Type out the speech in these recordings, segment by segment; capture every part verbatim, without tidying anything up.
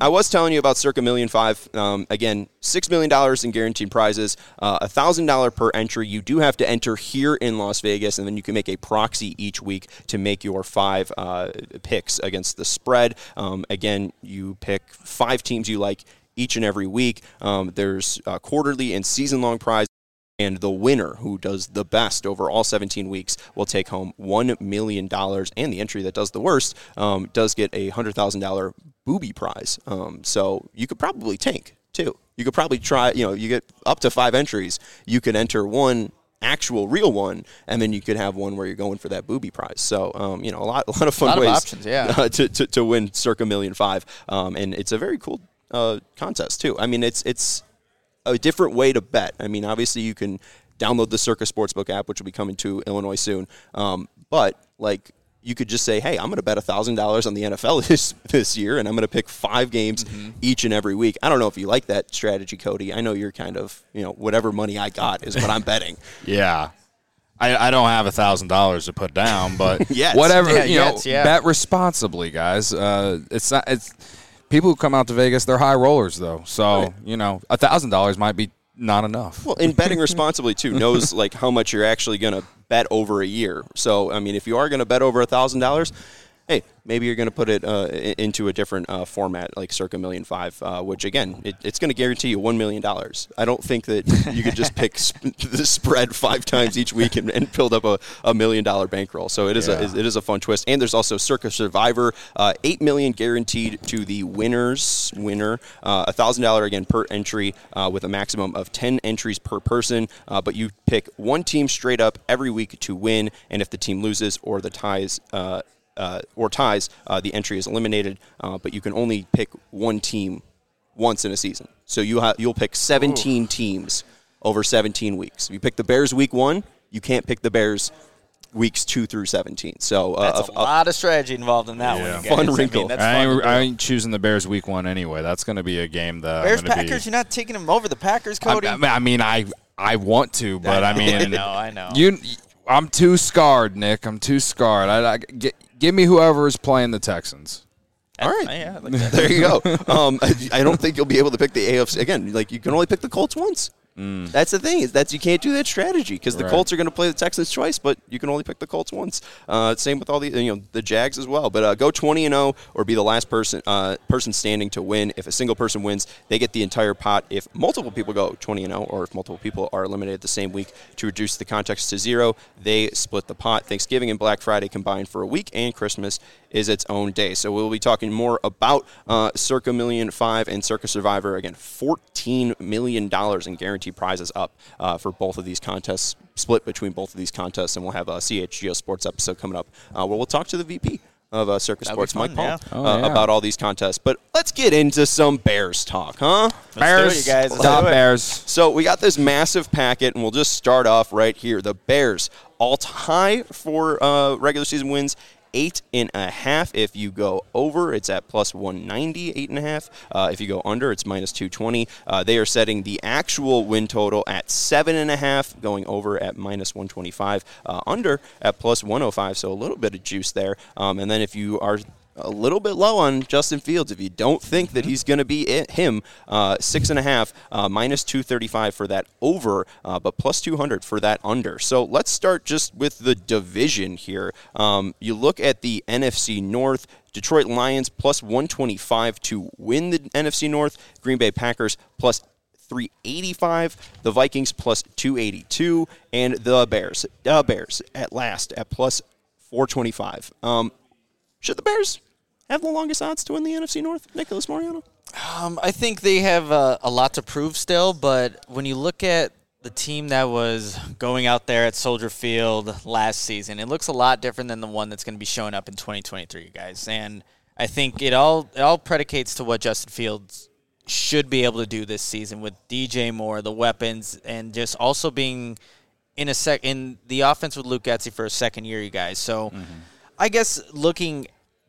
I was telling you about Circa Million Five. Um, again, six million dollars in guaranteed prizes, uh, one thousand dollars per entry. You do have to enter here in Las Vegas, and then you can make a proxy each week to make your five uh, picks against the spread. Um, again, you pick five teams you like each and every week. Um, there's uh, quarterly and season-long prizes. And the winner, who does the best over all seventeen weeks, will take home one million dollars. And the entry that does the worst um, does get a one hundred thousand dollars booby prize. Um, so you could probably tank, too. You could probably try, you know, you get up to five entries. You could enter one actual real one, and then you could have one where you're going for that booby prize. So, um, you know, a lot, a lot of fun a lot ways of options, yeah. uh, to, to, to win Circa Million Five. Um, and it's a very cool uh, contest, too. I mean, it's it's... a different way to bet. I mean, obviously you can download the Circa Sportsbook app, which will be coming to Illinois soon. Um, but, like, you could just say, hey, I'm going to bet one thousand dollars on the N F L this, this year, and I'm going to pick five games mm-hmm. each and every week. I don't know if you like that strategy, Cody. I know you're kind of, you know, whatever money I got is what I'm betting. Yeah. I, I don't have one thousand dollars to put down, but yes. whatever, yeah, you yes, know, yeah. bet responsibly, guys. Uh, it's not, it's people who come out to Vegas, they're high rollers, though. So, right. you know, one thousand dollars might be not enough. Well, in betting responsibly, too, knows, like, how much you're actually going to bet over a year. So, I mean, if you are going to bet over one thousand dollars, hey, maybe you're going to put it uh, into a different uh, format, like Circa Million Five, uh, which, again, it, it's going to guarantee you one million dollars. I don't think that you could just pick sp- the spread five times each week and, and build up a, a million-dollar bankroll. So it is, yeah. a, it is a fun twist. And there's also Circa Survivor, uh, eight million dollars guaranteed to the winner's winner, uh, one thousand dollars, again, per entry uh, with a maximum of ten entries per person. Uh, but you pick one team straight up every week to win, and if the team loses or the ties uh, Uh, or ties, uh, the entry is eliminated, uh, but you can only pick one team once in a season. So you ha- you'll pick seventeen Ooh. teams over seventeen weeks. If you pick the Bears week one, you can't pick the Bears weeks two through seventeen. So uh, that's a, a lot of strategy involved in that yeah. one. Guys. Fun wrinkle. I, mean, that's I, fun ain't, I ain't choosing the Bears week one anyway. That's going to be a game that Bears I'm gonna Packers. Be, You're not taking them over the Packers, Cody. I, I mean, I I want to, but I mean, I know, I know. You, I'm too scarred, Nick. I'm too scarred. I, I get. Give me whoever is playing the Texans. All right. Yeah, like that. There you go. Um, I, I don't think you'll be able to pick the A F C. Again, like you can only pick the Colts once. Mm. That's the thing. Is that's you can't do that strategy because the right. Colts are going to play the Texans twice, but you can only pick the Colts once. Uh, same with all the you know the Jags as well. But uh, go twenty and oh or be the last person uh, person standing to win. If a single person wins, they get the entire pot. If multiple people go twenty and oh, or if multiple people are eliminated the same week to reduce the context to zero, they split the pot. Thanksgiving and Black Friday combined for a week, and Christmas is its own day. So we'll be talking more about uh, Circa Million Five and Circa Survivor. Again, fourteen million dollars in guaranteed prizes up uh, for both of these contests, split between both of these contests, and we'll have a C H G O Sports episode coming up uh, where we'll talk to the V P of uh, Circa That'd Sports, fun, Mike Paul, yeah. Oh, uh, yeah. about all these contests. But let's get into some Bears talk, huh? Let's Bears, do it, you guys. Let's Stop do it. Bears. So we got this massive packet, and we'll just start off right here. The Bears, all-time for uh, regular season wins, eight and a half. If you go over, it's at plus one ninety, eight and a half. Uh, if you go under, it's minus two twenty. Uh, they are setting the actual win total at seven and a half, going over at minus one twenty-five, uh, under at plus one oh five. So a little bit of juice there. Um, and then if you are a little bit low on Justin Fields, if you don't think that he's going to be it, him, uh, six and a half, uh, minus two thirty-five for that over, uh, but plus two hundred for that under. So let's start just with the division here. Um, you look at the N F C North. Detroit Lions plus one twenty-five to win the N F C North. Green Bay Packers plus three eighty-five. The Vikings plus two eighty-two, and the Bears, the Bears at last at plus four twenty-five. Um, Should the Bears have the longest odds to win the N F C North, Nicholas Mariano? Um, I think they have uh, a lot to prove still, but when you look at the team that was going out there at Soldier Field last season, it looks a lot different than the one that's going to be showing up in twenty twenty-three, guys. And I think it all it all predicates to what Justin Fields should be able to do this season with D J Moore, the weapons, and just also being in a sec in the offense with Luke Getsy for a second year, you guys. So. Mm-hmm. I guess looking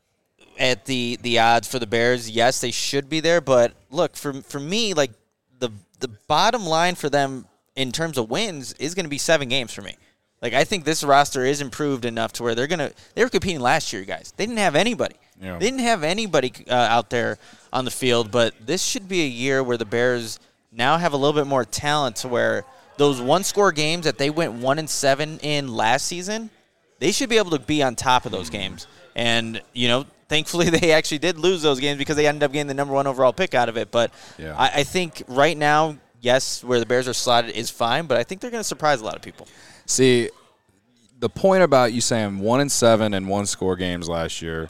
at the, the odds for the Bears, yes, they should be there. But look, for for me, like the the bottom line for them in terms of wins is going to be seven games for me. Like, I think this roster is improved enough to where they're going to – they were competing last year, guys. They didn't have anybody. Yeah. They didn't have anybody uh, out there on the field, but this should be a year where the Bears now have a little bit more talent to where those one-score games that they went one and seven in last season, they should be able to be on top of those games. And, you know, thankfully they actually did lose those games because they ended up getting the number one overall pick out of it. But yeah. I, I think right now, yes, where the Bears are slotted is fine, but I think they're going to surprise a lot of people. See, the point about you saying one and seven and one score games last year,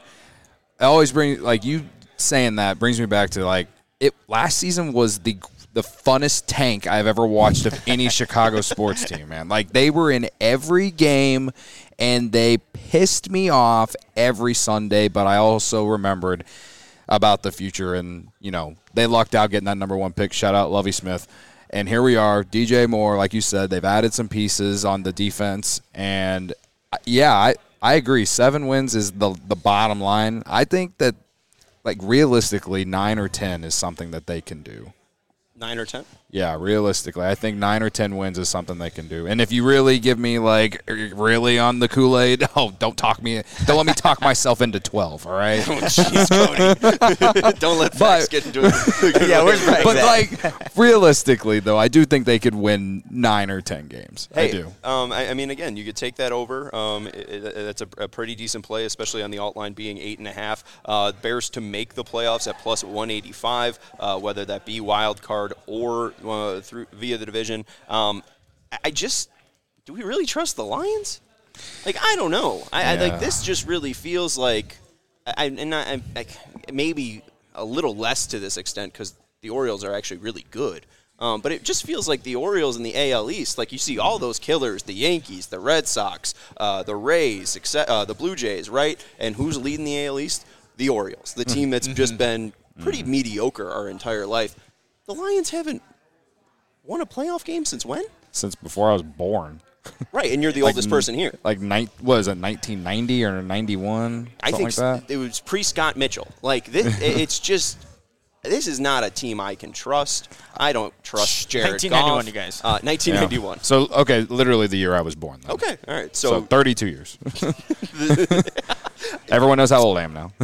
I always bring like you saying that brings me back to like it. Last season was the the funnest tank I've ever watched of any Chicago sports team, man. Like they were in every game, and they pissed me off every Sunday. But I also remembered about the future, and you know they lucked out getting that number one pick. Shout out Lovie Smith. And here we are, D J Moore, like you said, they've added some pieces on the defense. And, yeah, I, I agree. Seven wins is the the bottom line. I think that, like, realistically, nine or ten is something that they can do. Nine or ten? Yeah, realistically. I think nine or ten wins is something they can do. And if you really give me, like, really on the Kool-Aid, oh, don't talk me. Don't let me talk myself into twelve, all right? Oh, jeez, Cody. Don't let facts But- get into it. Yeah, where's Brett? But, like, realistically, though, I do think they could win nine or ten games. Hey, I do. Um, I, I mean, again, you could take that over. Um, it, it, that's a, a pretty decent play, especially on the alt line being eight and a half. Uh, Bears to make the playoffs at plus one eighty-five, uh, whether that be wild card or uh, through via the division. Um, I, I just, do we really trust the Lions? Like, I don't know. I, I Yeah. like this. Just really feels like, I, and I, I, maybe a little less to this extent because the Orioles are actually really good. Um, but it just feels like the Orioles in the A L East, like you see all those killers, the Yankees, the Red Sox, uh, the Rays, except, uh, the Blue Jays, right? And who's leading the A L East? The Orioles, the team that's just been pretty mediocre our entire life. The Lions haven't won a playoff game since when? Since before I was born. Right, and you're the Like oldest n- person here. Like, nine, what is it, nineteen ninety or ninety-one? I think like that? it was pre-Scott Mitchell. Like, this, it's just – this is not a team I can trust. I don't trust Jared nineteen ninety-one, Goff. you guys. Uh, nineteen ninety-one. Yeah. So, okay, literally the year I was born. Then. Okay, all right. So, So, thirty-two years. Everyone knows how old I am now.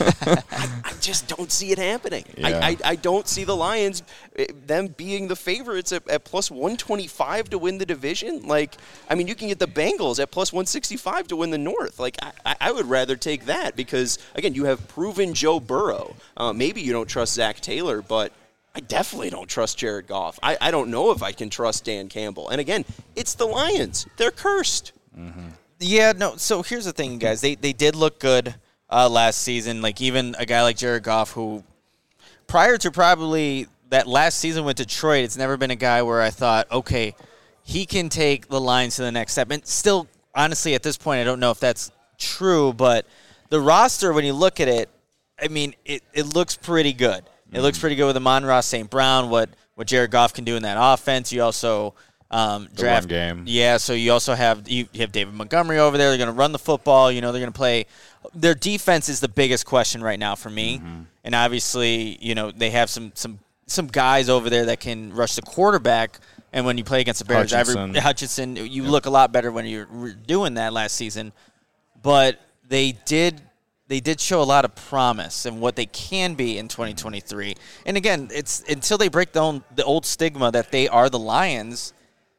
I just don't see it happening. Yeah. I, I, I don't see the Lions, eh, them being the favorites at, at plus one twenty-five to win the division. Like, I mean, you can get the Bengals at plus one sixty-five to win the North. Like, I, I would rather take that because, again, you have proven Joe Burrow. Uh, maybe you don't trust Zach Taylor, but I definitely don't trust Jared Goff. I, I don't know if I can trust Dan Campbell. And, again, it's the Lions. They're cursed. Mm-hmm. Yeah, no. So here's the thing, guys. They they did look good uh, last season. Like even a guy like Jared Goff, who prior to probably that last season with Detroit, it's never been a guy where I thought, okay, he can take the Lions to the next step. And still, honestly, at this point, I don't know if that's true. But the roster, when you look at it, I mean, it, it looks pretty good. It mm-hmm. looks pretty good with Amon-Ra Saint Brown. What what Jared Goff can do in that offense. You also. Um, the draft run game. Yeah, so you also have you, you have David Montgomery over there. They're going to run the football. You know, they're going to play. Their defense is the biggest question right now for me. Mm-hmm. And obviously, you know, they have some some some guys over there that can rush the quarterback. And when you play against the Bears, Hutchinson, every, Hutchinson you yep. look a lot better when you're doing that last season. But they did they did show a lot of promise and what they can be in twenty twenty-three. And again, it's until they break the own, the old stigma that they are the Lions.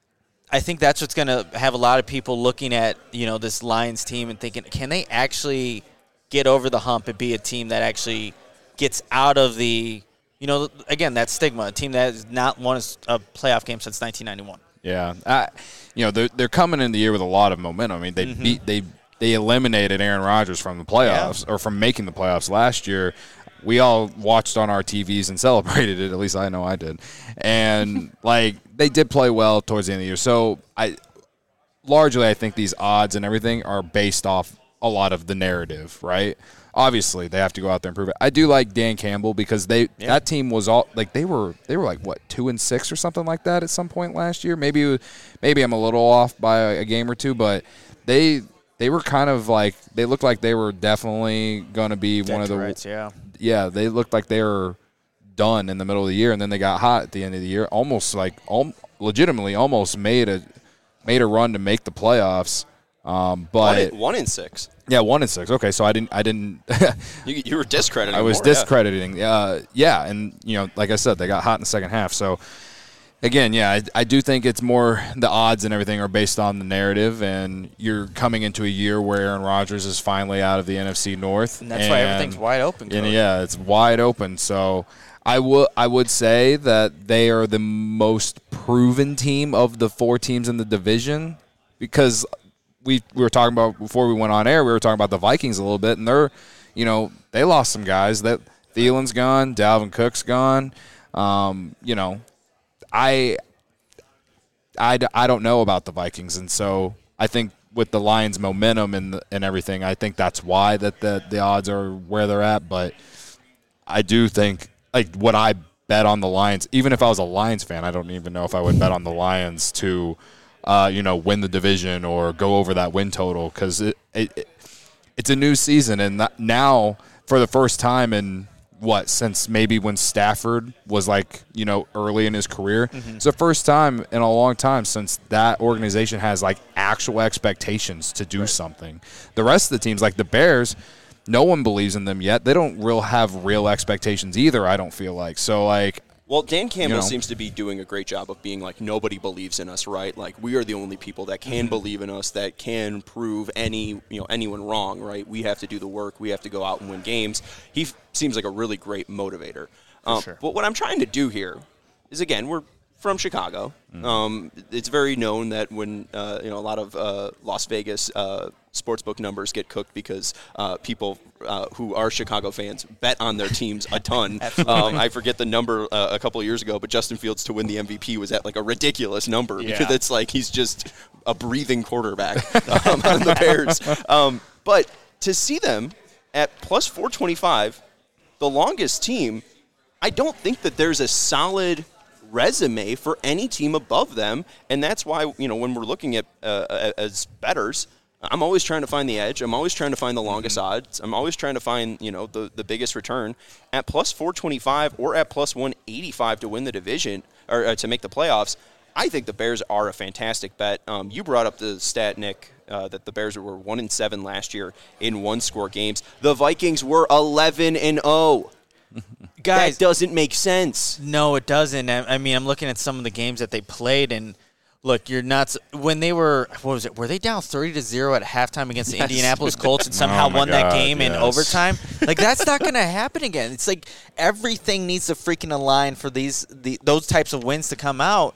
I think that's what's going to have a lot of people looking at, you know, this Lions team and thinking, can they actually get over the hump and be a team that actually gets out of the, you know, again, that stigma, a team that has not won a playoff game since nineteen ninety-one. Yeah. I, you know, they're, they're coming in the year with a lot of momentum. I mean, they mm-hmm. beat they they eliminated Aaron Rodgers from the playoffs yeah. or from making the playoffs last year. We all watched on our T Vs and celebrated it. At least I know I did. And, like, they did play well towards the end of the year. So, I largely, I think these odds and everything are based off a lot of the narrative, right? Obviously, they have to go out there and prove it. I do like Dan Campbell because they yeah. that team was all like they were they were like what two and six or something like that at some point last year. Maybe maybe I'm a little off by a game or two, but they they were kind of like they looked like they were definitely going to be Dead one of the rights, yeah. Yeah, they looked like they were done in the middle of the year, and then they got hot at the end of the year. Almost like, al- legitimately, almost made a made a run to make the playoffs. Um, but one in, one in six. Yeah, one and six. Okay, so I didn't. I didn't. you, you were discrediting. I was more, discrediting. Yeah. Uh, yeah, and you know, like I said, they got hot in the second half. So again, yeah, I, I do think it's more the odds and everything are based on the narrative, and you're coming into a year where Aaron Rodgers is finally out of the N F C North, and that's and, why everything's wide open. And yeah, it's wide open. So I would I would say that they are the most proven team of the four teams in the division because. We, we were talking about before we went on air. We were talking about the Vikings a little bit, and they're, you know, they lost some guys. That Thielen's gone, Dalvin Cook's gone. Um, you know, I, I, I don't know about the Vikings, and so I think with the Lions' momentum and the, and everything, I think that's why that the the odds are where they're at. But I do think like what I bet on the Lions, even if I was a Lions fan, I don't even know if I would bet on the Lions to. Uh, you know, win the division or go over that win total because it, it, it it's a new season and that now for the first time in what since maybe when Stafford was like you know early in his career, mm-hmm. It's the first time in a long time since that organization has like actual expectations to do right. something. The rest of the teams, like the Bears, no one believes in them yet. They don't real have real expectations either. I don't feel like so like. Well, Dan Campbell you know. seems to be doing a great job of being like, nobody believes in us, right? Like, we are the only people that can mm-hmm. believe in us, that can prove any, you know, anyone wrong, right? We have to do the work. We have to go out and win games. He f- seems like a really great motivator. Um, sure. But what I'm trying to do here is, again, we're from Chicago. Mm-hmm. Um, it's very known that when, uh, you know, a lot of uh, Las Vegas uh, sportsbook numbers get cooked because uh, people uh, who are Chicago fans bet on their teams a ton. um, I forget the number uh, a couple of years ago, but Justin Fields to win the M V P was at like a ridiculous number yeah. because it's like he's just a breathing quarterback um, on the Bears. Um, but to see them at plus four twenty-five, the longest team, I don't think that there's a solid resume for any team above them, and that's why you know when we're looking at uh, as bettors, I'm always trying to find the edge. I'm always trying to find the longest mm-hmm. odds. I'm always trying to find you know the the biggest return at plus four twenty-five or at plus one eighty-five to win the division or uh, to make the playoffs. I think the Bears are a fantastic bet. Um, you brought up the stat, Nick, uh, that the Bears were one and seven last year in one score games. The Vikings were eleven and zero. Guys, that doesn't make sense. No, it doesn't. I mean, I'm looking at some of the games that they played, and look, you're nuts. When they were, what was it? Were they down thirty to zero at halftime against the yes. Indianapolis Colts and somehow oh won God, that game yes. in overtime? Like that's not going to happen again. It's like everything needs to freaking align for these the, those types of wins to come out,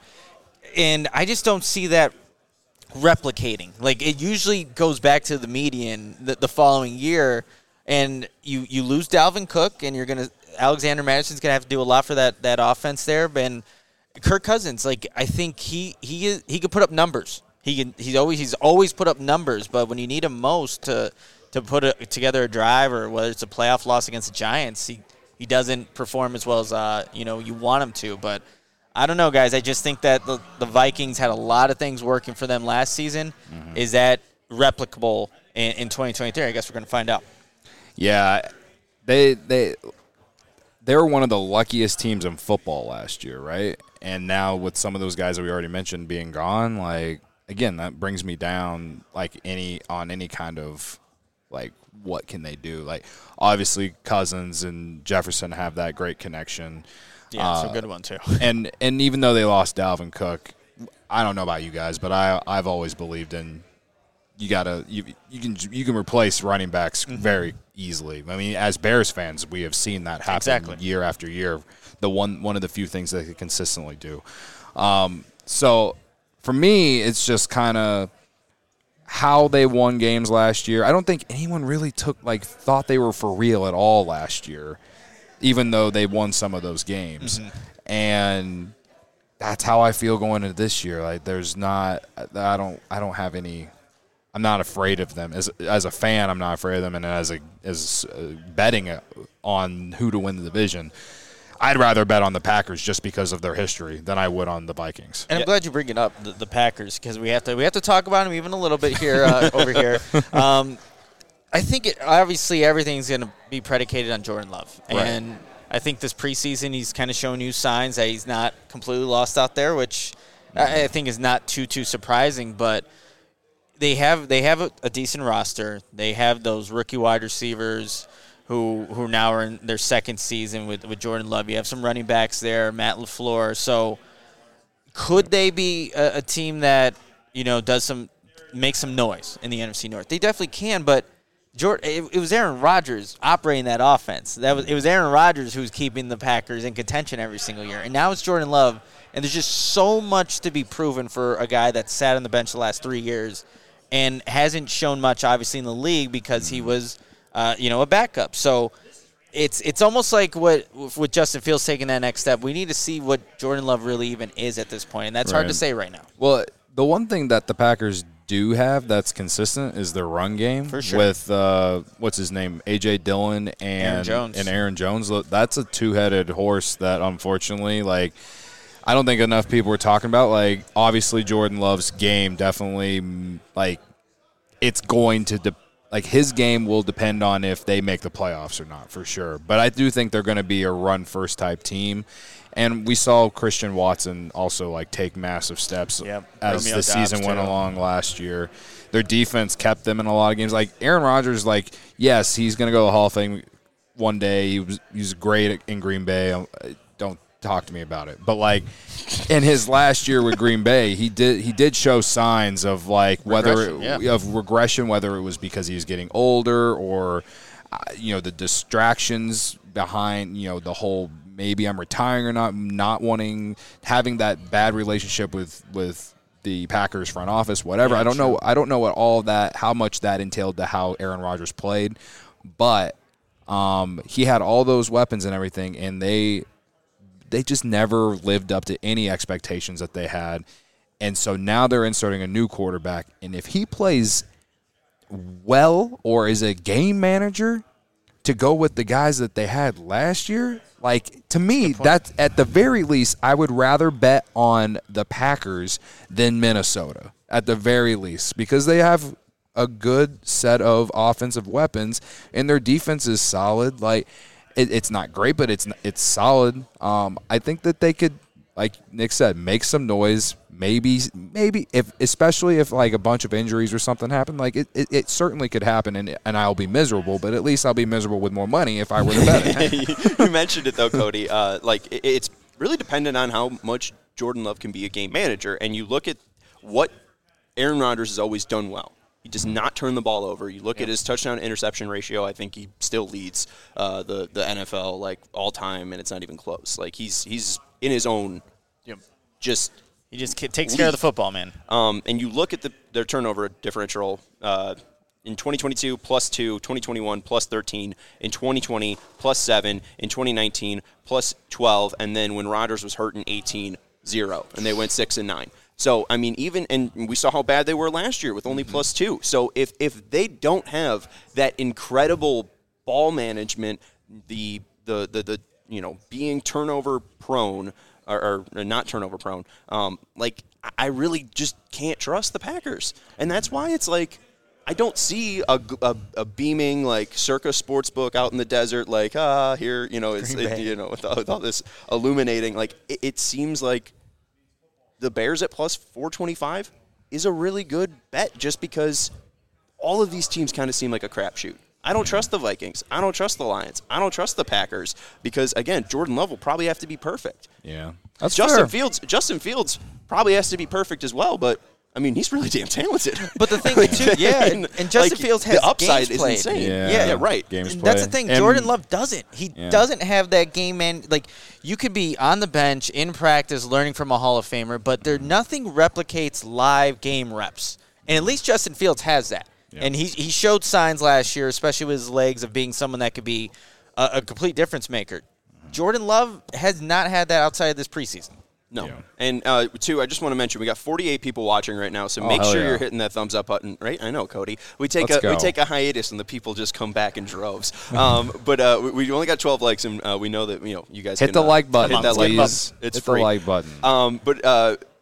and I just don't see that replicating. Like it usually goes back to the median the, the following year, and you you lose Dalvin Cook, and you're going to. Alexander Madison's going to have to do a lot for that, that offense there. And Kirk Cousins, like I think he he is, he could put up numbers. He can he's always he's always put up numbers, but when you need him most to to put a, together a drive or whether it's a playoff loss against the Giants, he, he doesn't perform as well as uh, you know you want him to. But I don't know, guys. I just think that the, the Vikings had a lot of things working for them last season. Mm-hmm. Is that replicable in, in twenty twenty-three? I guess we're going to find out. Yeah, they they. They were one of the luckiest teams in football last year, right? And now with some of those guys that we already mentioned being gone, like again, that brings me down like any on any kind of like what can they do? Like obviously Cousins and Jefferson have that great connection. Yeah, it's uh, a good one too. and and even though they lost Dalvin Cook, I don't know about you guys, but I I've always believed in you gotta you you can you can replace running backs mm-hmm. very easily. I mean, as Bears fans, we have seen that happen exactly. year after year. The one one of the few things they consistently do. Um, so for me, it's just kind of how they won games last year. I don't think anyone really took like thought they were for real at all last year, even though they won some of those games. Mm-hmm. And that's how I feel going into this year. Like there's not I don't I don't have any I'm not afraid of them. As as a fan, I'm not afraid of them, and as a as uh, betting on who to win the division, I'd rather bet on the Packers just because of their history than I would on the Vikings. And I'm yeah. glad you bring it up, the, the Packers, because we have to we have to talk about them even a little bit here uh, over here. Um, I think it, obviously everything's going to be predicated on Jordan Love, and right. I think this preseason he's kind of shown you signs that he's not completely lost out there, which. I, I think is not too too surprising, but they have they have a, a decent roster. They have those rookie wide receivers who who now are in their second season with, with Jordan Love. You have some running backs there, Matt LaFleur. So could they be a, a team that, you know, does some make some noise in the N F C North? They definitely can, but Jordan, it, it was Aaron Rodgers operating that offense. That was it was Aaron Rodgers who was keeping the Packers in contention every single year. And now it's Jordan Love, and there's just so much to be proven for a guy that sat on the bench the last three years and hasn't shown much, obviously, in the league because he was, uh, you know, a backup. So it's it's almost like what with Justin Fields taking that next step. We need to see what Jordan Love really even is at this point, and that's Right. hard to say right now. Well, the one thing that the Packers do have that's consistent is their run game. For sure. With, uh, what's his name, A J. Dillon and Aaron Jones. and Aaron Jones. That's a two-headed horse that, unfortunately, like, I don't think enough people were talking about. Like, obviously, Jordan Love's game definitely, mm, like, it's going to de- like his game will depend on if they make the playoffs or not, for sure. But I do think they're going to be a run-first type team. And we saw Christian Watson also, like, take massive steps Yep. as Romeo the season Dobbs, went too. along last year. Their defense kept them in a lot of games. Like, Aaron Rodgers, like, yes, he's going to go to the Hall of Fame one day. He was he was great in Green Bay. Don't talk to me about it. But, like, in his last year with Green Bay, he did he did show signs of, like, whether Regression, it, yeah. of regression, whether it was because he was getting older or, uh, you know, the distractions behind, you know, the whole maybe I'm retiring or not, not wanting, having that bad relationship with, with the Packers front office, whatever. Yeah, I don't sure. know. I don't know what all of that, how much that entailed to how Aaron Rodgers played, but um, he had all those weapons and everything, and they they just never lived up to any expectations that they had. And so now they're inserting a new quarterback, and if he plays well or is a game manager to go with the guys that they had last year, like, to me, that's at the very least, I would rather bet on the Packers than Minnesota at the very least, because they have a good set of offensive weapons and their defense is solid. Like, it, it's not great, but it's it's solid. Um, I think that they could, like Nick said, make some noise. Maybe, maybe if, especially if like a bunch of injuries or something happen, like it, it, it certainly could happen, and and I'll be miserable. But at least I'll be miserable with more money if I were to bet it. You mentioned it though, Cody. Uh, like it, it's really dependent on how much Jordan Love can be a game manager, and you look at what Aaron Rodgers has always done well. He does not turn the ball over. You look at his touchdown to interception ratio. I think he still leads uh, the the N F L like all time, and it's not even close. Like he's he's in his own, Yep. just. He just ki- takes care of the football, man. Um, and you look at the, their turnover differential uh, in twenty twenty-two, plus two, twenty twenty-one, plus thirteen, in twenty twenty, plus seven, in twenty nineteen, plus twelve, and then when Rodgers was hurt in eighteen, zero, and they went six and nine. So, I mean, even, and we saw how bad they were last year with only mm-hmm. plus two. So if, if they don't have that incredible ball management, the, the, the, the you know, being turnover prone, Or, or not turnover prone. Um, like, I really just can't trust the Packers. And that's why it's like, I don't see a, a, a beaming, like, Circa Sportsbook out in the desert, like, ah, here, you know, it's, it, you know, with all, with all this illuminating. Like, it, it seems like the Bears at plus four twenty-five is a really good bet just because all of these teams kind of seem like a crapshoot. I don't trust the Vikings. I don't trust the Lions. I don't trust the Packers because, again, Jordan Love will probably have to be perfect. Yeah, that's Justin fair. Fields. Justin Fields probably has to be perfect as well, but I mean, he's really damn talented. But the thing too, yeah, and, and Justin like, Fields has the upside games is played. insane. Yeah, Yeah, yeah right. Games And played. that's the thing. And- Jordan Love doesn't. He Yeah. doesn't have that game man. Like, you could be on the bench in practice learning from a Hall of Famer, but there nothing replicates live game reps. And at least Justin Fields has that. Yeah. And he he showed signs last year, especially with his legs, of being someone that could be a, a complete difference maker. Jordan Love has not had that outside of this preseason. No. Yeah. And, uh, two, I just want to mention, we got forty-eight people watching right now, so Oh, make hell sure yeah. you're hitting that thumbs up button, right? I know, Cody. We take Let's a we go. take a hiatus, and the people just come back in droves. Um, but uh, we, we only got twelve likes, and uh, we know that, you know, you guys Hit can, the uh, like button, Hit that like please. button. It's Hit free. the like button. Um, but uh,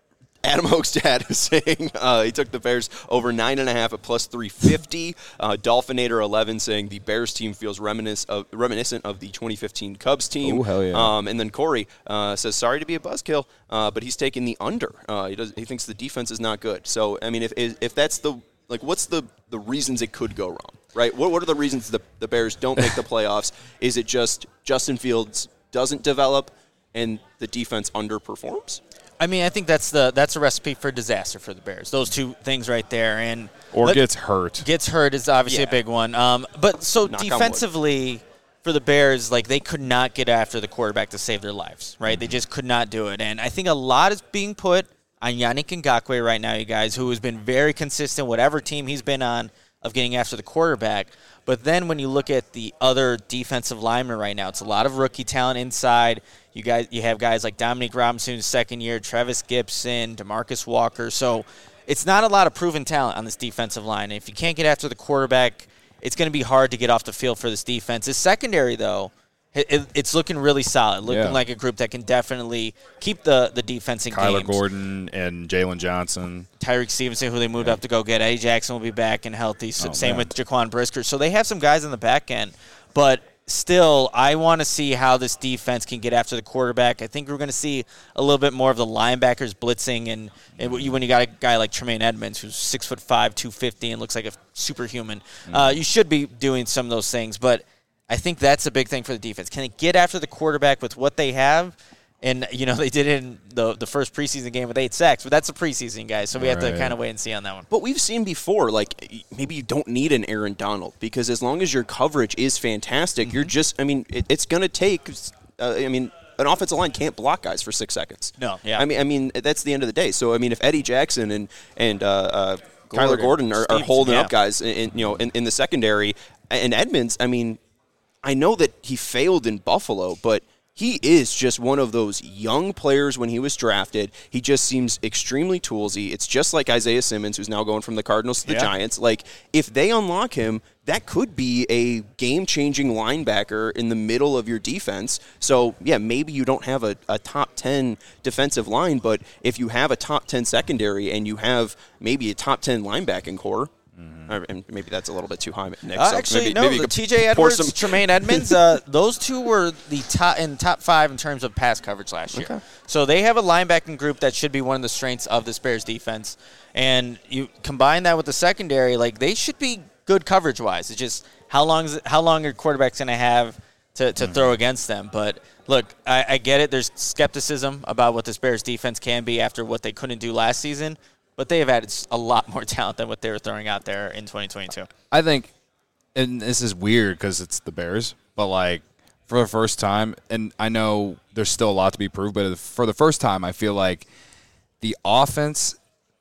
Adam Hochstad is saying uh, he took the Bears over nine and a half at plus three fifty. Uh, Dolphinator eleven saying the Bears team feels reminiscent of, reminiscent of the twenty fifteen Cubs team. Oh, hell yeah. Um, and then Corey uh, says, sorry to be a buzzkill, uh, but he's taking the under. Uh, he does. He thinks the defense is not good. So, I mean, if if that's the, like, what's the, the reasons it could go wrong, right? What, what are the reasons the, the Bears don't make the playoffs? Is it just Justin Fields doesn't develop and the defense underperforms? I mean, I think that's the that's a recipe for disaster for the Bears. Those two things right there, and or let, gets hurt. Gets hurt is obviously Yeah. a big one. Um, but so Knock on wood. defensively for the Bears, like they could not get after the quarterback to save their lives, right? Mm-hmm. They just could not do it, and I think a lot is being put on Yannick Ngakoue right now, you guys, who has been very consistent, whatever team he's been on, of getting after the quarterback. But then when you look at the other defensive linemen right now, it's a lot of rookie talent inside. You guys, you have guys like Dominique Robinson, who's second year, Travis Gibson, DeMarcus Walker. So it's not a lot of proven talent on this defensive line. If you can't get after the quarterback, it's going to be hard to get off the field for this defense. This secondary, though, it, it, it's looking really solid, looking Yeah. like a group that can definitely keep the, the defense in Kyler games. Gordon and Jalen Johnson. Tyreek Stevenson, who they moved Yeah. up to go get. Eddie Jackson will be back and healthy. So Oh, same man. with Jaquan Brisker. So they have some guys on the back end. But still, I want to see how this defense can get after the quarterback. I think we're going to see a little bit more of the linebackers blitzing. And, and when you got a guy like Tremaine Edmonds, who's six foot five, two fifty, and looks like a superhuman, mm-hmm. uh, you should be doing some of those things. But I think that's a big thing for the defense. Can they get after the quarterback with what they have? And, you know, they did it in the the first preseason game with eight sacks, but that's a preseason, guys, so we have Right. to kind of wait and see on that one. But we've seen before, like, maybe you don't need an Aaron Donald because as long as your coverage is fantastic, mm-hmm. you're just, I mean, it, it's going to take, uh, I mean, an offensive line can't block guys for six seconds. No, yeah. I mean, I mean, that's the end of the day. So, I mean, if Eddie Jackson and, and uh, uh, Gordon, Kyler Gordon are, are Stevenson, holding yeah. up guys, in, in, you know, in, in the secondary, and Edmonds, I mean, I know that he failed in Buffalo, but he is just one of those young players when he was drafted. He just seems extremely toolsy. It's just like Isaiah Simmons, who's now going from the Cardinals to the Yeah. Giants. Like, if they unlock him, that could be a game-changing linebacker in the middle of your defense. So, yeah, maybe you don't have a, a top ten defensive line, but if you have a top ten secondary and you have maybe a top ten linebacking core, mm-hmm. and maybe that's a little bit too high, Nick. Uh, so actually, maybe, no. maybe you The could T J pour Edwards, some- Tremaine Edmonds, uh, those two were the top in top five in terms of pass coverage last year. Okay. So they have a linebacking group that should be one of the strengths of this Bears defense. And you combine that with the secondary, like they should be good coverage wise. It's just how long is it, how long your quarterback's going to have to, to mm-hmm. throw against them. But look, I, I get it. There's skepticism about what this Bears defense can be after what they couldn't do last season. But they have added a lot more talent than what they were throwing out there in twenty twenty-two. I think, and this is weird because it's the Bears, but like for the first time, and I know there's still a lot to be proved, but for the first time, I feel like the offense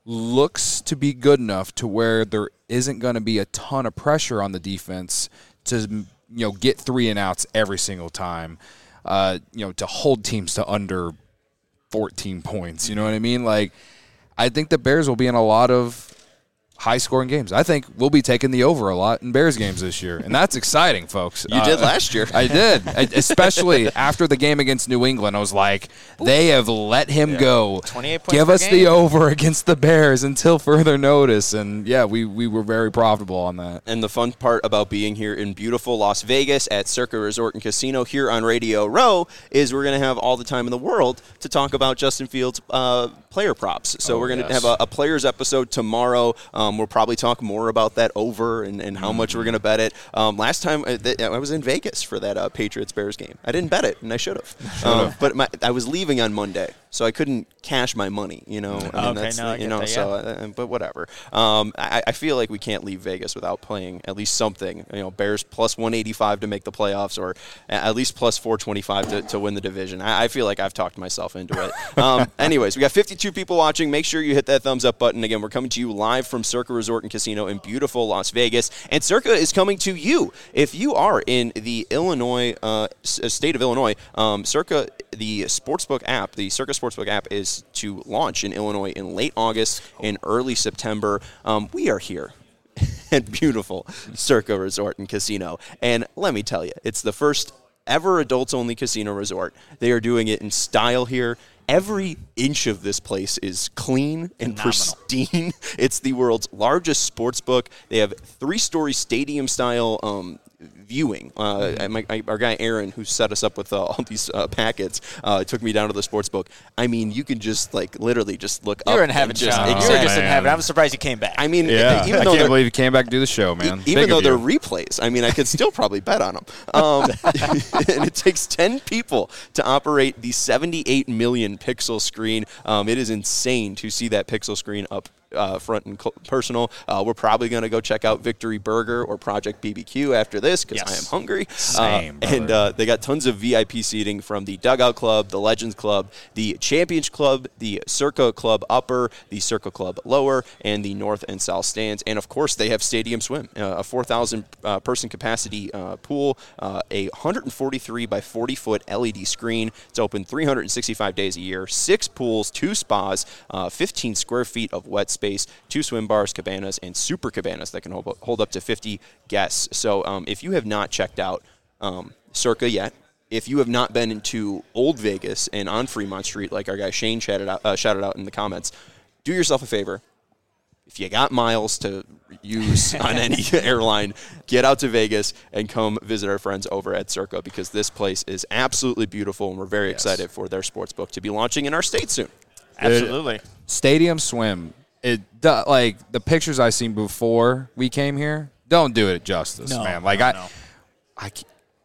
looks to be good enough to where there isn't going to be a ton of pressure on the defense to, you know, get three and outs every single time, uh, you know, to hold teams to under fourteen points. You know what I mean? Like, I think the Bears will be in a lot of high-scoring games. I think we'll be taking the over a lot in Bears games this year, and that's exciting, folks. You uh, did last year. I did, I, especially after the game against New England. I was like, they have let him yeah. go. twenty-eight points Give per us game. the over against the Bears until further notice, and yeah, we, we were very profitable on that. And the fun part about being here in beautiful Las Vegas at Circa Resort and Casino here on Radio Row is we're going to have all the time in the world to talk about Justin Fields' uh, player props. So oh, we're going to yes. have a, a players episode tomorrow. Um, we'll probably talk more about that over and, and how mm-hmm. much we're going to bet it. Um, last time I, th- I was in Vegas for that uh, Patriots-Bears game. I didn't bet it, and I should have. Um, but my, I was leaving on Monday, so I couldn't cash my money. You know, I mean, okay, that's, no, I you get know. that, So, yeah. uh, but whatever. Um, I, I feel like we can't leave Vegas without playing at least something. You know, Bears plus one eighty-five to make the playoffs, or at least plus four twenty-five to, to win the division. I, I feel like I've talked myself into it. Um, anyways, we got fifty-two people watching. Make sure you hit that thumbs up button. Again, we're coming to you live from Circa Resort and Casino in beautiful Las Vegas, and Circa is coming to you if you are in the Illinois uh, state of Illinois. Um, Circa, the sportsbook app, the Circa sportsbook app, is to launch in Illinois in late August and early September. Um, we are here at beautiful Circa Resort and Casino, and let me tell you, it's the first ever adults-only casino resort. They are doing it in style here. Every inch of this place is clean and Phenomenal. pristine. It's the world's largest sports book. They have three-story stadium-style um, viewing. Uh, my, my, our guy Aaron, who set us up with uh, all these uh, packets, uh, took me down to the sports book. I mean, you can just like literally just look You up. were in heaven, and just, Sean. You were exactly. just in heaven. I'm surprised you came back. I mean, Yeah, even I though can't they're- believe you came back to do the show, man. E- Even Big though of they're you. replays, I mean, I could still probably bet on them. Um, and it takes ten people to operate the seventy-eight million pixel screen. Um, it is insane to see that pixel screen up uh, front and cl- personal. Uh, we're probably going to go check out Victory Burger or Project B B Q after this because Yes. I am hungry. Same, uh, and uh, they got tons of V I P seating from the Dugout Club, the Legends Club, the Champions Club, the Circa Club Upper, the Circa Club Lower, and the North and South stands. And, of course, they have Stadium Swim, uh, a four thousand uh, person capacity uh, pool, uh, a one hundred forty-three by forty foot L E D screen. It's open three hundred sixty-five days a year, six pools, two spas, uh, fifteen square feet of wet space, two swim bars, cabanas, and super cabanas that can hold, hold up to fifty guests. So um, if you have not checked out um, Circa yet, if you have not been into Old Vegas and on Fremont Street, like our guy Shane shouted out, uh, shouted out in the comments, do yourself a favor. If you got miles to use on any airline, get out to Vegas and come visit our friends over at Circa because this place is absolutely beautiful and we're very Yes. excited for their sports book to be launching in our state soon. Absolutely. Stadium Swim. It do- like the pictures I seen before we came here. Don't do it justice, No, man. Like no, I, no. I ca-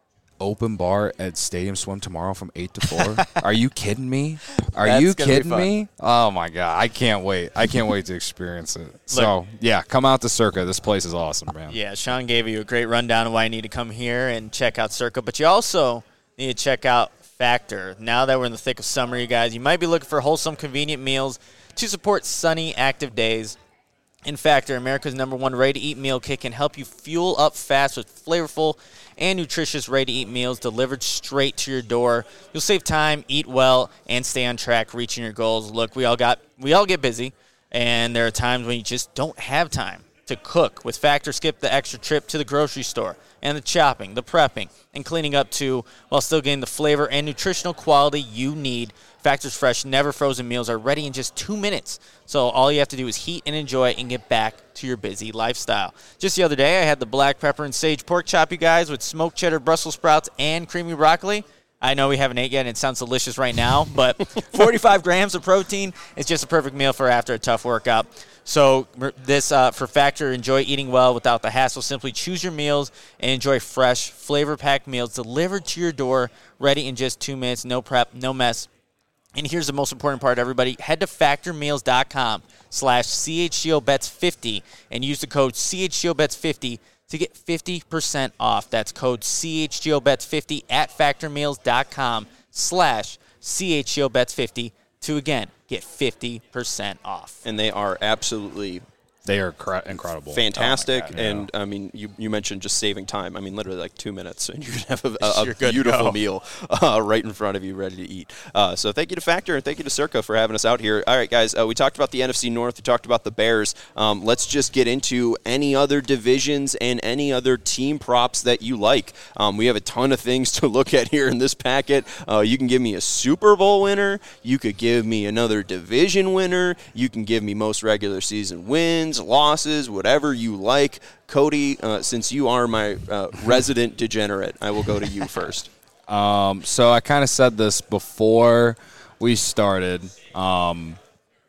open bar at Stadium Swim tomorrow from eight to four. Are you kidding me? Are That's you gonna be kidding fun. me? Oh my god, I can't wait. I can't wait to experience it. So yeah, come out to Circa. This place is awesome, man. Yeah, Sean gave you a great rundown of why you need to come here and check out Circa, but you also need to check out Factor. Now that we're in the thick of summer, you guys, you might be looking for wholesome, convenient meals to support sunny, active days. In Factor, America's number one ready-to-eat meal kit can help you fuel up fast with flavorful and nutritious ready-to-eat meals delivered straight to your door. You'll save time, eat well, and stay on track reaching your goals. Look, we all got we all get busy, and there are times when you just don't have time to cook. With Factor, skip the extra trip to the grocery store and the chopping, the prepping, and cleaning up too, while still getting the flavor and nutritional quality you need. Factor's fresh, never frozen meals are ready in just two minutes. So all you have to do is heat and enjoy and get back to your busy lifestyle. Just the other day, I had the black pepper and sage pork chop, you guys, with smoked cheddar Brussels sprouts and creamy broccoli. I know we haven't ate yet, and it sounds delicious right now, but forty-five grams of protein is just a perfect meal for after a tough workout. So this uh, for Factor, enjoy eating well without the hassle. Simply choose your meals and enjoy fresh, flavor-packed meals delivered to your door, ready in just two minutes. No prep, no mess. And here's the most important part, everybody. Head to factormeals.com slash CHGOBets50 and use the code CHGOBets50 to get fifty percent off. That's code CHGOBets50 at factormeals.com slash CHGOBets50 to, again, get fifty percent off. And they are absolutely They are cra- incredible. fantastic. Oh my God, and, I mean, you, you mentioned just saving time. I mean, literally like two minutes, and you can have a, a, You're a good to beautiful go. meal uh, right in front of you, ready to eat. Uh, so thank you to Factor, and thank you to Circa for having us out here. All right, guys, uh, we talked about the N F C North. We talked about the Bears. Um, let's just get into any other divisions and any other team props that you like. Um, we have a ton of things to look at here in this packet. Uh, you can give me a Super Bowl winner. You could give me another division winner. You can give me most regular season wins, losses, whatever you like. Cody, uh, since you are my uh, resident degenerate, I will go to you first. Um, so I kind of said this before we started. Um,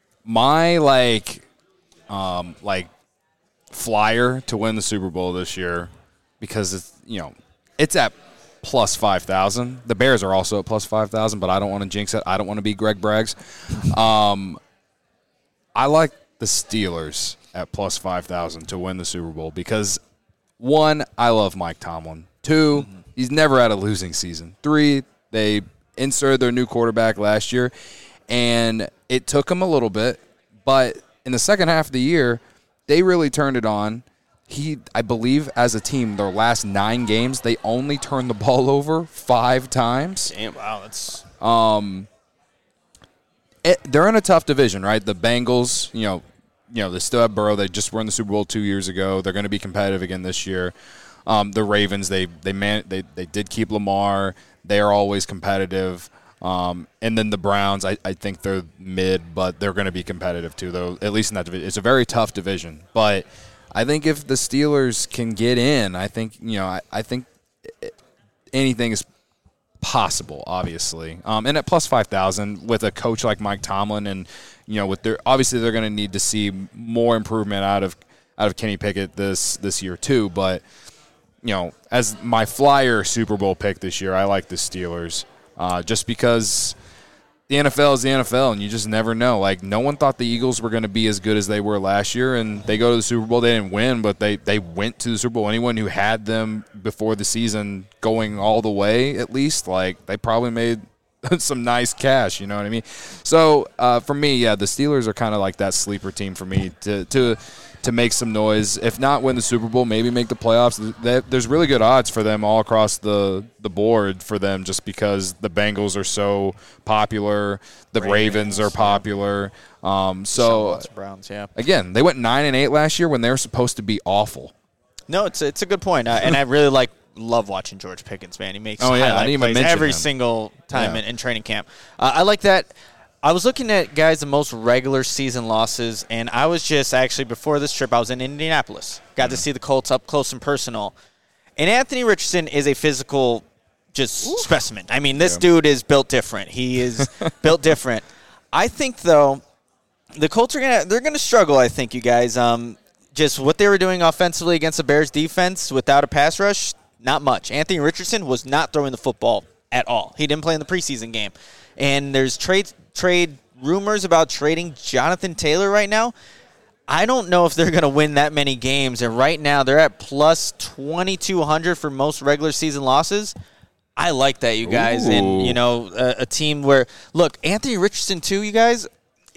my like, um, like flyer to win the Super Bowl this year, because it's you know it's at plus five thousand. The Bears are also at plus five thousand, but I don't want to jinx it. I don't want to be Greg Braggs. Um, I like the Steelers at plus five thousand to win the Super Bowl because, one, I love Mike Tomlin. Two, mm-hmm. he's never had a losing season. Three, they inserted their new quarterback last year, and it took them a little bit, but in the second half of the year, they really turned it on. He, I believe, as a team, their last nine games, they only turned the ball over five times. Damn. Wow, that's Um, it, they're in a tough division, right? The Bengals, you know, you know, they still have Burrow. They just won the Super Bowl two years ago. They're going to be competitive again this year. Um, the Ravens, they they man, they they did keep Lamar. They are always competitive. Um, and then the Browns, I, I think they're mid, but they're going to be competitive too, though, at least in that division. It's a very tough division. But I think if the Steelers can get in, I think, you know, I, I think anything is possible, obviously. Um, and at plus five thousand with a coach like Mike Tomlin and, you know, with their obviously they're going to need to see more improvement out of out of Kenny Pickett this this year too. But, you know, as my flyer Super Bowl pick this year, I like the Steelers. Uh, just because the N F L is the N F L, and you just never know. Like, no one thought the Eagles were going to be as good as they were last year, and they go to the Super Bowl. They didn't win, but they, they went to the Super Bowl. Anyone who had them before the season going all the way, at least, like, they probably made some nice cash, you know what I mean? So, uh, for me, yeah, the Steelers are kind of like that sleeper team for me to to – to make some noise. If not win the Super Bowl, maybe make the playoffs. There's really good odds for them all across the, the board for them just because the Bengals are so popular. The Ravens, Ravens are popular. Um, so, Browns, yeah. Again, they went nine and eight last year when they were supposed to be awful. No, it's, it's a good point. Uh, and I really like love watching George Pickens, man. He makes oh, yeah, highlight plays every him. single time yeah. in, in training camp. Uh, I like that. I was looking at, guys, the most regular season losses, and I was just actually, before this trip, I was in Indianapolis. Got mm-hmm. to see the Colts up close and personal. And Anthony Richardson is a physical just Ooh. specimen. I mean, this yeah. dude is built different. He is built different. I think, though, the Colts are going to they're gonna struggle, I think, you guys. Um, just what they were doing offensively against the Bears defense without a pass rush, not much. Anthony Richardson was not throwing the football at all. He didn't play in the preseason game. And there's trade trade rumors about trading Jonathan Taylor right now. I don't know if they're going to win that many games. And right now they're at plus twenty-two hundred for most regular season losses. I like that, you guys. Ooh. And, you know, a, a team where, look, Anthony Richardson too, you guys,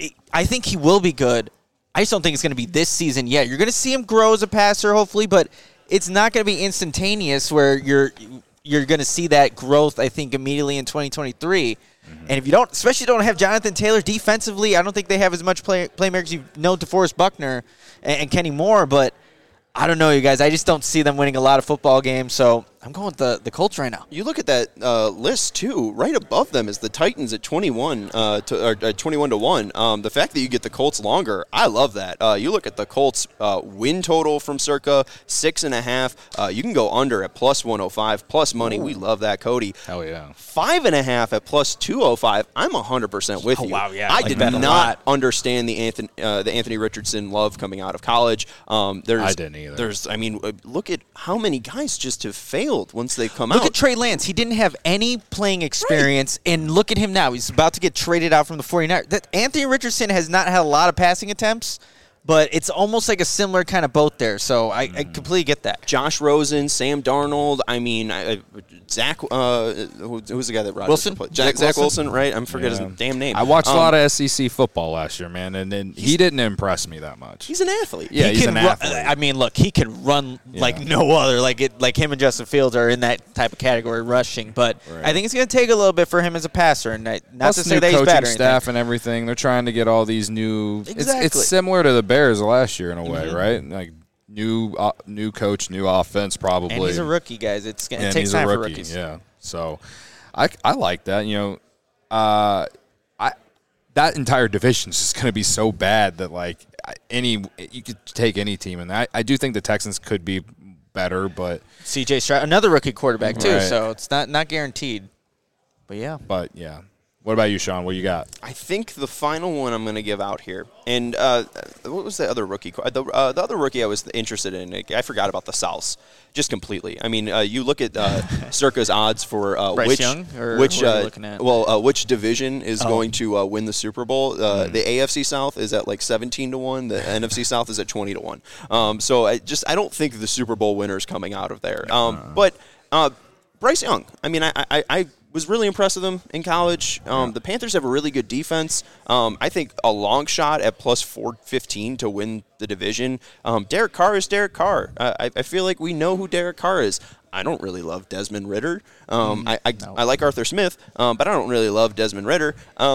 I think he will be good. I just don't think it's going to be this season yet. You're going to see him grow as a passer, hopefully, but it's not going to be instantaneous where you're you're going to see that growth, I think, immediately in twenty twenty-three. Mm-hmm. And if you don't, especially don't have Jonathan Taylor defensively, I don't think they have as much play, playmakers. You know DeForest Buckner and, and Kenny Moore, but I don't know, you guys. I just don't see them winning a lot of football games, so I'm going with the, the Colts right now. You look at that uh, list, too. Right above them is the Titans at twenty-one uh, to or, uh, twenty-one to one. Um, the fact that you get the Colts longer, I love that. Uh, you look at the Colts uh, win total from circa six and a half. Uh, you can go under at plus one oh five, plus money. Ooh. We love that, Cody. Hell yeah. Five and a half at plus two oh five. I'm one hundred percent with oh, you. Wow, yeah. I like did not understand the Anthony uh, the Anthony Richardson love coming out of college. Um, there's, I didn't either. There's, I mean, look at how many guys just have failed once they come Look out. at Trey Lance. He didn't have any playing experience, right. and look at him now. He's about to get traded out from the 49ers. That Anthony Richardson has not had a lot of passing attempts, but it's almost like a similar kind of boat there. So I, mm. I completely get that. Josh Rosen, Sam Darnold. I mean, I, Zach. Uh, who, who's the guy that Rodgers Wilson? Played? Zach, Zach Wilson. Wilson, right? I'm forgetting yeah. his damn name. I watched um, a lot of S E C football last year, man, and, and he didn't impress me that much. He's an athlete. Yeah, he he's can an run, athlete. I mean, look, he can run yeah. like no other. Like it, like him and Justin Fields are in that type of category, rushing. But right. I think it's going to take a little bit for him as a passer, and not Plus to say new that he's bad or staff anything. and everything. They're trying to get all these new. Exactly. It's, it's similar to the Bears last year in a way, mm-hmm. right? Like new, uh, new coach, new offense, probably. And he's a rookie, guys. It's it and takes he's time a for rookie, rookies. Yeah. So, I I like that. You know, uh, I that entire division is just going to be so bad that like any you could take any team, and I I do think the Texans could be better, but C J Stroud, another rookie quarterback too, right. so it's not not guaranteed. But yeah. But yeah. What about you, Sean? What you got? I think the final one I'm going to give out here, and uh, what was the other rookie? The, uh, the other rookie I was interested in, I forgot about the Souths just completely. I mean, uh, you look at uh, Circa's odds for uh, Bryce which Young, or which what are you uh, looking at? well, uh, which division is Oh. going to uh, win the Super Bowl? Uh, Mm. The A F C South is at like seventeen to one. The N F C South is at twenty to one. Um, so I just I don't think the Super Bowl winner is coming out of there. Um, but uh, Bryce Young, I mean, I I. I was really impressed with them in college. Um, Yeah. The Panthers have a really good defense. Um, I think a long shot at plus four fifteen to win the division. Um, Derek Carr is Derek Carr. Uh, I, I feel like we know who Derek Carr is. I don't really love Desmond Ritter. Um, mm, I I, no. I like Arthur Smith, um, but I don't really love Desmond Ritter. Um,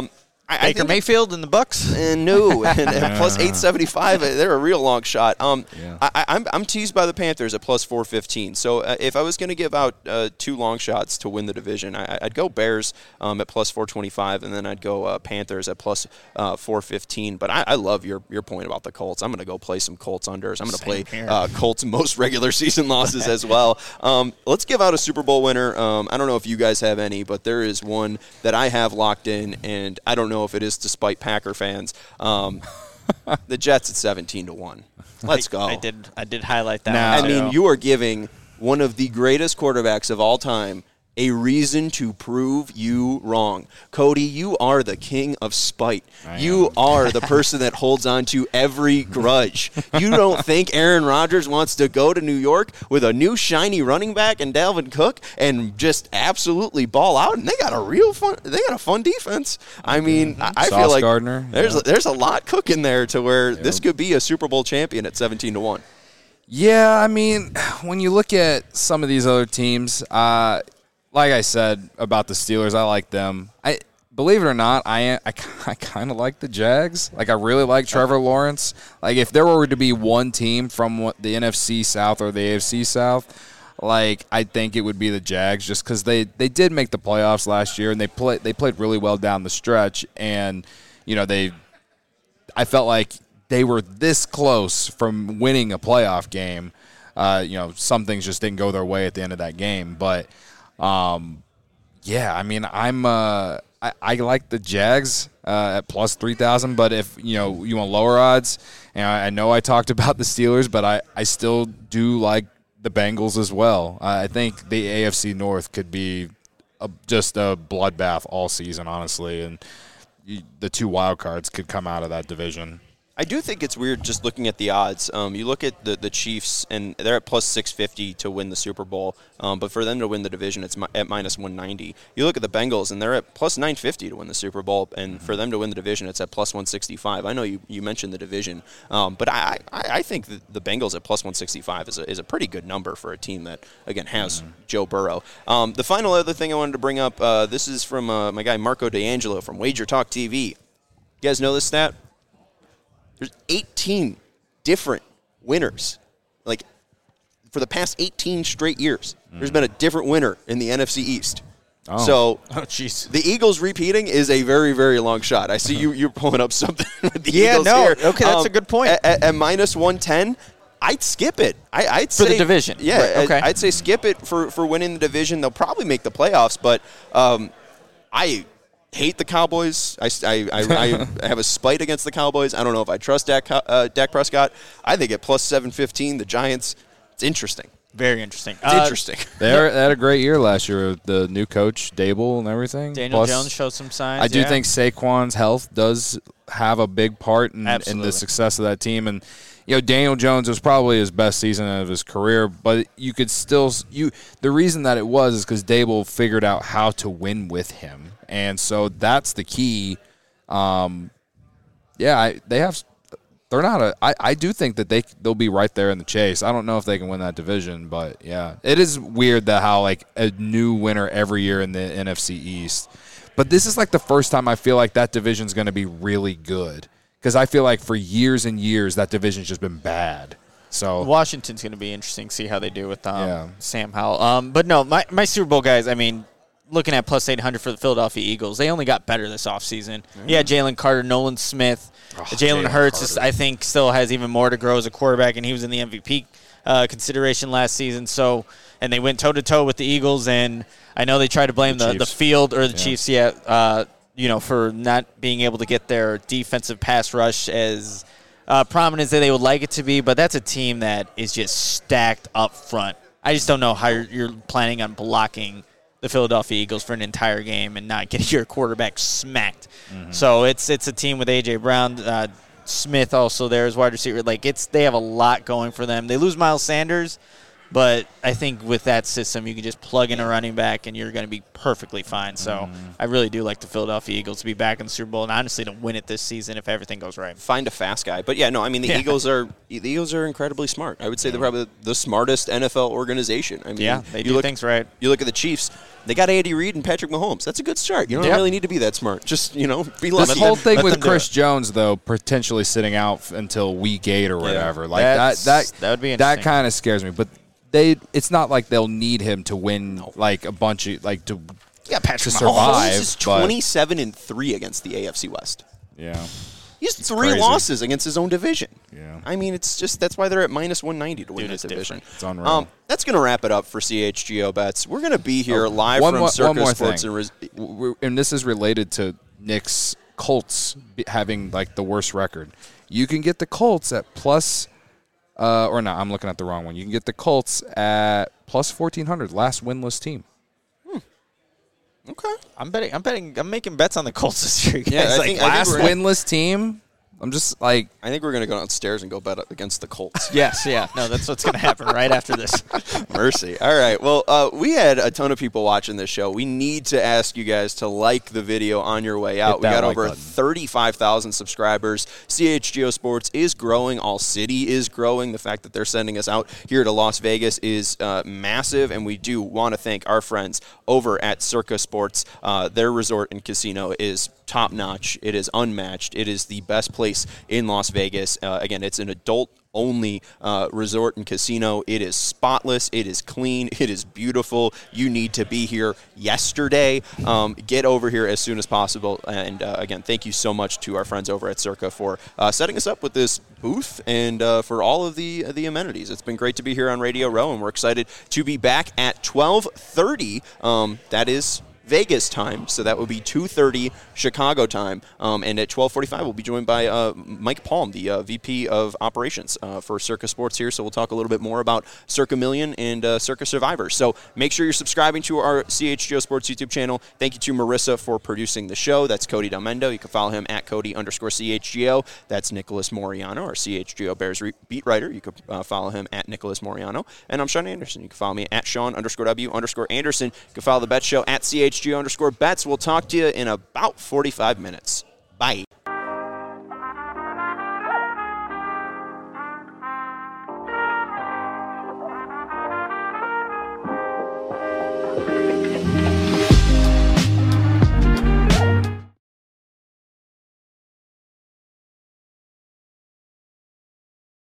I, Baker I Mayfield and the Bucks? And no, and, and plus eight seventy-five, they're a real long shot. Um, Yeah. I, I'm I'm teased by the Panthers at plus four fifteen. So uh, if I was going to give out uh, two long shots to win the division, I, I'd go Bears um, at plus four twenty-five, and then I'd go uh, Panthers at plus uh, four fifteen. But I, I love your your point about the Colts. I'm going to go play some Colts unders. I'm going to play uh, Colts most regular season losses as well. Um, let's give out a Super Bowl winner. Um, I don't know if you guys have any, but there is one that I have locked in, and I don't know if it is to spite Packer fans. Um, the Jets at seventeen to one. Let's go. I, I did I did highlight that Now- one, I too. mean, you are giving one of the greatest quarterbacks of all time a reason to prove you wrong. Cody, you are the king of spite. I You am. are the person that holds on to every grudge. You don't think Aaron Rodgers wants to go to New York with a new shiny running back and Dalvin Cook and just absolutely ball out? And they got a real fun. They got a fun defense. I mean, I, I feel Sauce like Gardner, there's yeah. a, there's a lot cooking there to where this could be a Super Bowl champion at seventeen to one. Yeah, I mean, when you look at some of these other teams, uh, like I said about the Steelers, I like them. I believe it or not, I I, I kind of like the Jags. Like I really like Trevor Lawrence. Like if there were to be one team from what, the N F C South or the A F C South, like I think it would be the Jags, just because they, they did make the playoffs last year and they play they played really well down the stretch, and you know they, I felt like they were this close from winning a playoff game. Uh, you know, some things just didn't go their way at the end of that game, but. Um, yeah, I mean, I'm uh, I, I like the Jags uh, at plus three thousand, but if you know you want lower odds, and I, I know I talked about the Steelers, but I, I still do like the Bengals as well. Uh, I think the A F C North could be a, just a bloodbath all season, honestly, and you, the two wild cards could come out of that division. I do think it's weird just looking at the odds. Um, you look at the, the Chiefs, and they're at plus six fifty to win the Super Bowl. Um, but for them to win the division, it's mi- at minus one ninety. You look at the Bengals, and they're at plus nine fifty to win the Super Bowl. And for them to win the division, it's at plus one sixty-five. I know you, you mentioned the division, um, but I, I, I think that the Bengals at plus one sixty-five is a, is a pretty good number for a team that, again, has mm-hmm. Joe Burrow. Um, the final other thing I wanted to bring up, uh, this is from uh, my guy Marco D'Angelo from Wager Talk T V. You guys know this stat? There's eighteen different winners. Like, for the past eighteen straight years, mm. there's been a different winner in the N F C East. Oh. So, Oh, jeez. the Eagles repeating is a very, very long shot. I see you, you're pulling up something with the Yeah, Eagles no. here. Okay, that's a good point. At, at, at minus one ten, I'd skip it. I, I'd For say, the division. Yeah, Right, okay. I'd say skip it for, for winning the division. They'll probably make the playoffs, but um, I hate the Cowboys. I, I, I, I have a spite against the Cowboys. I don't know if I trust Dak, uh, Dak Prescott. I think at plus seven fifteen, the Giants, it's interesting. Very interesting. It's Uh, interesting. They, are, they had a great year last year with the new coach, Dable, and everything. Daniel Plus, Jones showed some signs. I do yeah. think Saquon's health does have a big part in, in Absolutely. the success of that team. And, you know, Daniel Jones was probably his best season of his career, but you could still – you. the reason that it was is because Dable figured out how to win with him. And so that's the key. Um, yeah, I, they have – they're not a I, – I do think that they, they'll be right there in the chase. I don't know if they can win that division, but, yeah. It is weird that how, like, a new winner every year in the N F C East. But this is, like, the first time I feel like that division's going to be really good. Because I feel like for years and years that division's just been bad. So Washington's going to be interesting to see how they do with um, Yeah. Sam Howell. Um, but, no, my, my Super Bowl guys, I mean – looking at plus eight hundred for the Philadelphia Eagles, they only got better this offseason. Mm. Yeah, Jalen Carter, Nolan Smith. Oh, Jalen Jalen Hurts, is, Carter. I think, still has even more to grow as a quarterback, and he was in the M V P uh, consideration last season. So, and they went toe-to-toe with the Eagles, and I know they tried to blame The the, the, Chiefs. field or the Yeah. Chiefs, yeah, uh, you know, for not being able to get their defensive pass rush as uh, prominent as they would like it to be, but that's a team that is just stacked up front. I just don't know how you're, you're planning on blocking the Philadelphia Eagles for an entire game and not getting your quarterback smacked. Mm-hmm. So it's it's a team with A J Brown, uh, Smith also there as wide receiver. Like it's they have a lot going for them. They lose Miles Sanders, but I think with that system you can just plug in a running back and you're going to be perfectly fine. So mm-hmm. I really do like the Philadelphia Eagles to be back in the Super Bowl and honestly to win it this season if everything goes right. Find a fast guy. But, yeah, no, I mean, the Yeah. Eagles are the Eagles are incredibly smart. I would say they're probably the smartest N F L organization. I mean, Yeah, they you do look, things right. You look at the Chiefs. They got Andy Reid and Patrick Mahomes. That's a good start. You don't Yep. really need to be that smart. Just, you know, be lucky. This whole thing let with them do Chris it. Jones, though, potentially sitting out f- until week eight or whatever, like That's- that, that that would be that interesting. kind of scares me. But they, it's not like they'll need him to win like a bunch of like to Yeah, Patrick to Mahomes. survive. Mahomes is but- twenty-seven and three against the A F C West. yeah. He has three crazy. losses against his own division. Yeah. I mean, it's just that's why they're at minus one ninety to win Dude, this it's division. different. It's unreal. Um, that's going to wrap it up for C H G O Bets. We're going to be here Oh, live one from more, Circus one more Sports thing. and Res- W- w- and this is related to Nick's Colts be- having like the worst record. You can get the Colts at plus, uh, or no, I'm looking at the wrong one. You can get the Colts at plus fourteen hundred, last winless team. Okay. I'm betting. I'm betting. I'm making bets on the Colts this year. Yeah, guys. I like, think- I Last we're- winless team. I'm just like, I think we're going to go downstairs and go bet against the Colts. yes, yeah. No, that's what's going to happen right after this. Mercy. All right. Well, uh, we had a ton of people watching this show. We need to ask you guys to like the video on your way out. We that got like over button. thirty-five thousand subscribers. C H G O Sports is growing. All City is growing. The fact that they're sending us out here to Las Vegas is uh, massive, and we do want to thank our friends over at Circa Sports. Uh, their resort and casino is top notch. It is unmatched. It is the best place in Las Vegas. Uh, again, it's an adult only uh, resort and casino. It is spotless. It is clean. It is beautiful. You need to be here yesterday. Um, get over here as soon as possible. And uh, again, thank you so much to our friends over at Circa for uh, setting us up with this booth and uh, for all of the the amenities. It's been great to be here on Radio Row, and we're excited to be back at twelve thirty. Um, that is Vegas time, so that would be two thirty Chicago time. Um, and at twelve forty-five, we'll be joined by uh, Mike Palm, the uh, V P of Operations uh, for Circa Sports here. So we'll talk a little bit more about Circa Million and uh, Circa Survivor. So make sure you're subscribing to our C H G O Sports YouTube channel. Thank you to Marissa for producing the show. That's Cody Delmendo. You can follow him at Cody underscore C H G O. That's Nicholas Moriano, our C H G O Bears re- beat writer. You can uh, follow him at Nicholas Moriano. And I'm Sean Anderson. You can follow me at Sean underscore W underscore Anderson. You can follow the Bet Show at C H G O underscore Bets. We'll talk to you in about forty-five minutes. Bye.